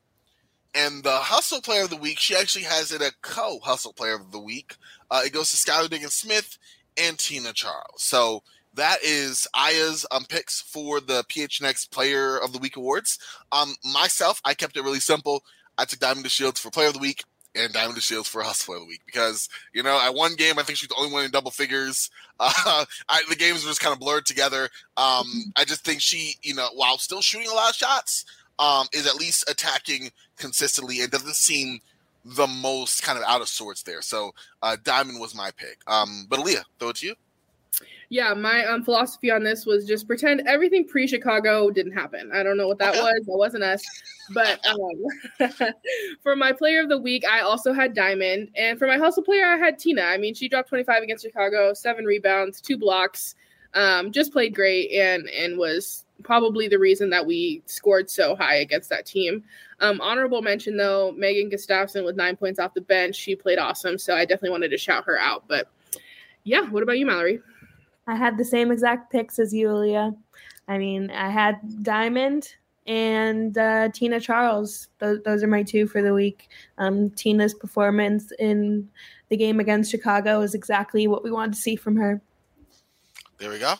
And the Hustle Player of the Week, she actually has it a co-Hustle Player of the Week. Uh, it goes to Skylar Diggins-Smith and Tina Charles. So that is Aya's um, picks for the P H N X Player of the Week awards. Um, myself, I kept it really simple. I took Diamond DeShields for Player of the Week and Diamond DeShields for Hustle Player of the Week because, you know, at one game, I think she's the only one in double figures. Uh, I, the games were just kind of blurred together. Um, I just think she, you know, while still shooting a lot of shots, Um, is at least attacking consistently and doesn't seem the most kind of out of sorts there. So uh, Diamond was my pick. Um, but Aaliyah, throw it to you. Yeah, my um, philosophy on this was just pretend everything pre-Chicago didn't happen. I don't know what that was. That wasn't us. But um, for my player of the week, I also had Diamond. And for my hustle player, I had Tina. I mean, she dropped twenty-five against Chicago, seven rebounds, two blocks, um, just played great and and was probably the reason that we scored so high against that team. Um, honorable mention, though, Megan Gustafson with nine points off the bench. She played awesome, so I definitely wanted to shout her out. But, yeah, what about you, Mallory? I had the same exact picks as you, Aaliyah. I mean, I had Diamond and uh, Tina Charles. Those, those are my two for the week. Um, Tina's performance in the game against Chicago is exactly what we wanted to see from her. There we go.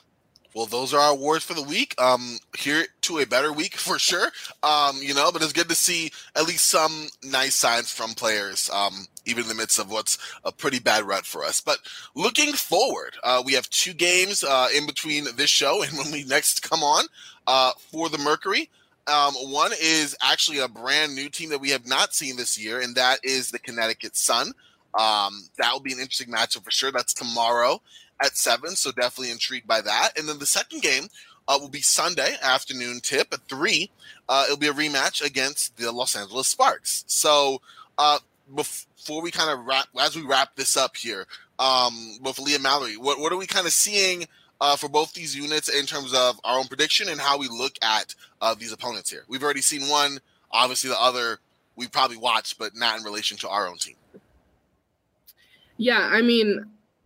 Well, those are our awards for the week. Um, here to a better week for sure. Um, you know, but it's good to see at least some nice signs from players, um, even in the midst of what's a pretty bad rut for us. But looking forward, uh, we have two games uh, in between this show and when we next come on uh, for the Mercury. Um, one is actually a brand new team that we have not seen this year, and that is the Connecticut Sun. Um, that will be an interesting matchup for sure. That's tomorrow at seven, so definitely intrigued by that. And then the second game uh, will be Sunday afternoon tip at three. Uh, it'll be a rematch against the Los Angeles Sparks. So uh, before we kind of wrap, as we wrap this up here, um, with Leah Mallory, what, what are we kind of seeing uh, for both these units in terms of our own prediction and how we look at uh, these opponents here? We've already seen one, obviously the other we probably watched, but not in relation to our own team. Yeah, I mean,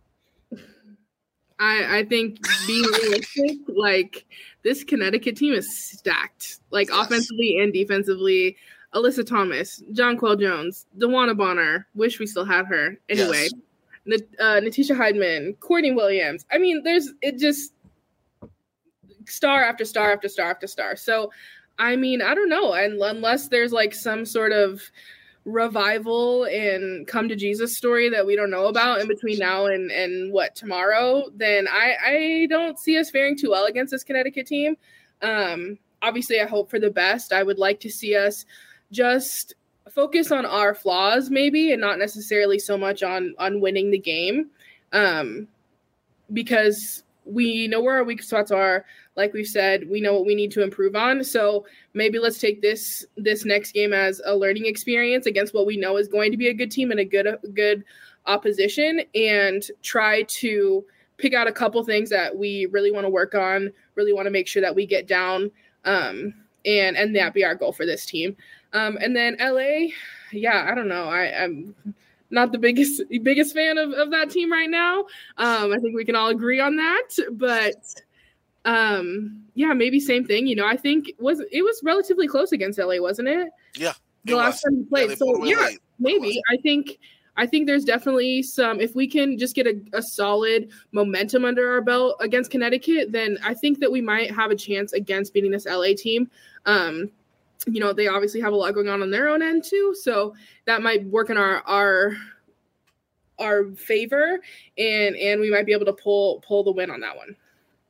I, I think being realistic, like this Connecticut team is stacked, like yes. offensively and defensively. Alyssa Thomas, Jonquel Jones, DeWanna Bonner. Wish we still had her. Anyway, yes. uh, Natisha Heidman, Courtney Williams. I mean, there's it just star after star after star after star. So, I mean, I don't know, and unless there's like some sort of revival and come to Jesus story that we don't know about in between now and and what tomorrow, then I I don't see us faring too well against this Connecticut team. Um, obviously, I hope for the best. I would like to see us just focus on our flaws maybe, and not necessarily so much on on winning the game, um, because we know where our weak spots are. Like we've said, we know what we need to improve on. So maybe let's take this this next game as a learning experience against what we know is going to be a good team and a good a good opposition, and try to pick out a couple things that we really want to work on, really want to make sure that we get down, um, and and that be our goal for this team. Um, and then L A, yeah, I don't know. I, I'm not the biggest biggest fan of, of that team right now. Um, I think we can all agree on that, but Um, yeah, maybe same thing. You know, I think it was it was relatively close against L A, wasn't it? Yeah, the last was. time we played. Yeah, so yeah, late. maybe I think I think there's definitely some. If we can just get a, a solid momentum under our belt against Connecticut, then I think that we might have a chance against beating this L A team. Um, you know, they obviously have a lot going on on their own end too, so that might work in our our our favor, and and we might be able to pull pull the win on that one.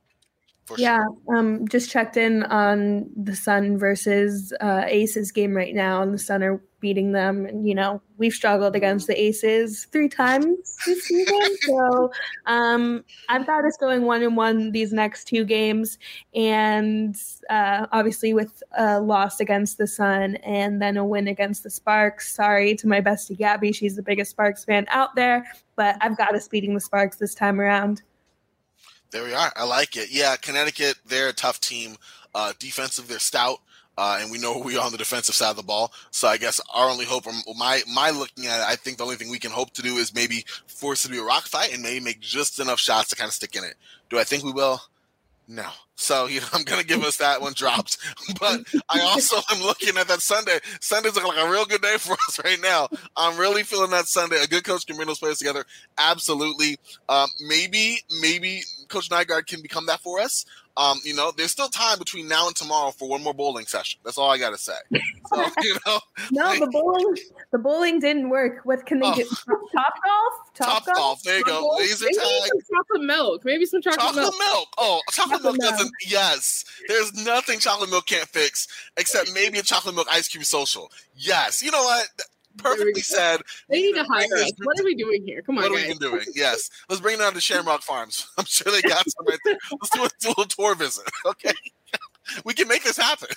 For yeah, sure. um, just checked in on the Sun versus uh, Aces game right now, and the Sun are beating them. And, you know, we've struggled against the Aces three times this season. So um, I've got us going one and one these next two games. And uh, obviously with a loss against the Sun and then a win against the Sparks. Sorry to my bestie Gabby. She's the biggest Sparks fan out there. But I've got us beating the Sparks this time around. There we are. I like it. Yeah, Connecticut, they're a tough team. Uh, defensive, they're stout, uh, and we know who we are on the defensive side of the ball. So I guess our only hope, or my my looking at it, I think the only thing we can hope to do is maybe force it to be a rock fight and maybe make just enough shots to kind of stick in it. Do I think we will? No. So, you know, I'm going to give us that one dropped. But I also am looking at that Sunday. Sunday's looking like a real good day for us right now. I'm really feeling that Sunday. A good coach can bring those players together. Absolutely. Um, maybe, maybe Coach Nygaard can become that for us. Um, you know, there's still time between now and tomorrow for one more bowling session. That's all I got to say. So, you know, no, like, the bowling, the bowling didn't work. What can they oh. do? Top golf? Top, top golf? golf. There you go. Golf? Laser Maybe tag. Some chocolate milk. Maybe some chocolate, chocolate milk. milk. Oh, chocolate, chocolate milk, milk doesn't. Yes, there's nothing chocolate milk can't fix except maybe a chocolate milk ice cream social. Yes, you know what? Perfectly said. They need to hire us. What are we doing here? Come on, What guys. are we even doing? Yes. Let's bring it down to Shamrock Farms. I'm sure they got some right there. Let's do a little tour visit, okay? We can make this happen.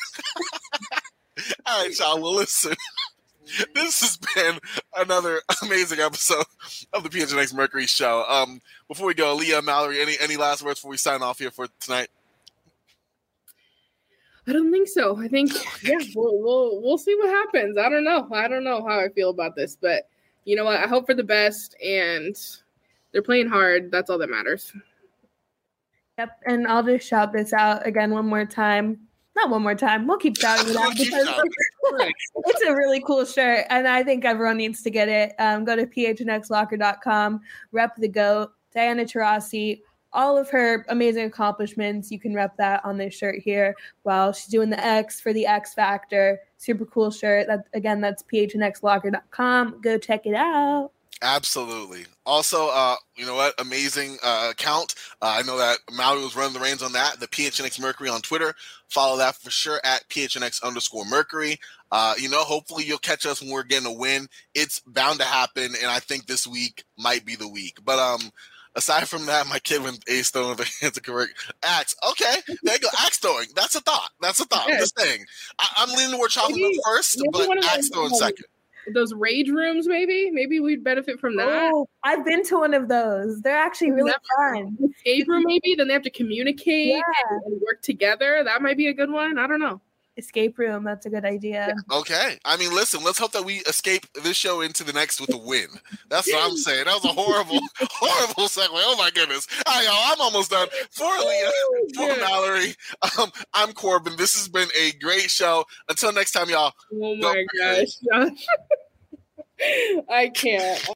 All right, y'all. Well, listen. This has been another amazing episode of the P H N X Mercury Show. Um, before we go, Leah, Mallory, any any last words before we sign off here for tonight? I don't think so. I think, yeah, we'll, we'll we'll see what happens. I don't know. I don't know how I feel about this, but you know what? I hope for the best, and they're playing hard. That's all that matters. Yep, and I'll just shout this out again one more time. Not one more time. We'll keep shouting it out because it's a really cool shirt, and I think everyone needs to get it. Um, go to p h n x locker dot com, rep the GOAT, Diana Taurasi, all of her amazing accomplishments. You can rep that on this shirt here while she's doing the X for the X Factor. Super cool shirt. That, again, that's p h n x locker dot com. Go check it out. Absolutely. Also, uh, you know what? Amazing uh, account. Uh, I know that Maui was running the reins on that. The P H N X Mercury on Twitter. Follow that for sure at P H N X underscore Mercury. Uh, you know, hopefully you'll catch us when we're getting a win. It's bound to happen, and I think this week might be the week. But um, aside from that, my kid went ace throwing the hands of correct axe. Okay, there you go. Axe throwing. That's a thought. That's a thought. Okay. I'm just saying. I, I'm leaning toward chocolate Maybe- first, maybe but one of axe those- throwing second. Those rage rooms, maybe. Maybe we'd benefit from that. Oh, I've been to one of those. They're actually really fun. Escape room, maybe. Then they have to communicate Yeah. and, and work together. That might be a good one. I don't know. Escape room. That's a good idea. Okay. I mean, listen, let's hope that we escape this show into the next with a win. That's what I'm saying. That was a horrible, horrible segue. Oh, my goodness. All right, y'all, I'm almost done. For Leah, for Yeah. Mallory, um, I'm Corbin. This has been a great show. Until next time, y'all. Oh Go my gosh. I can't.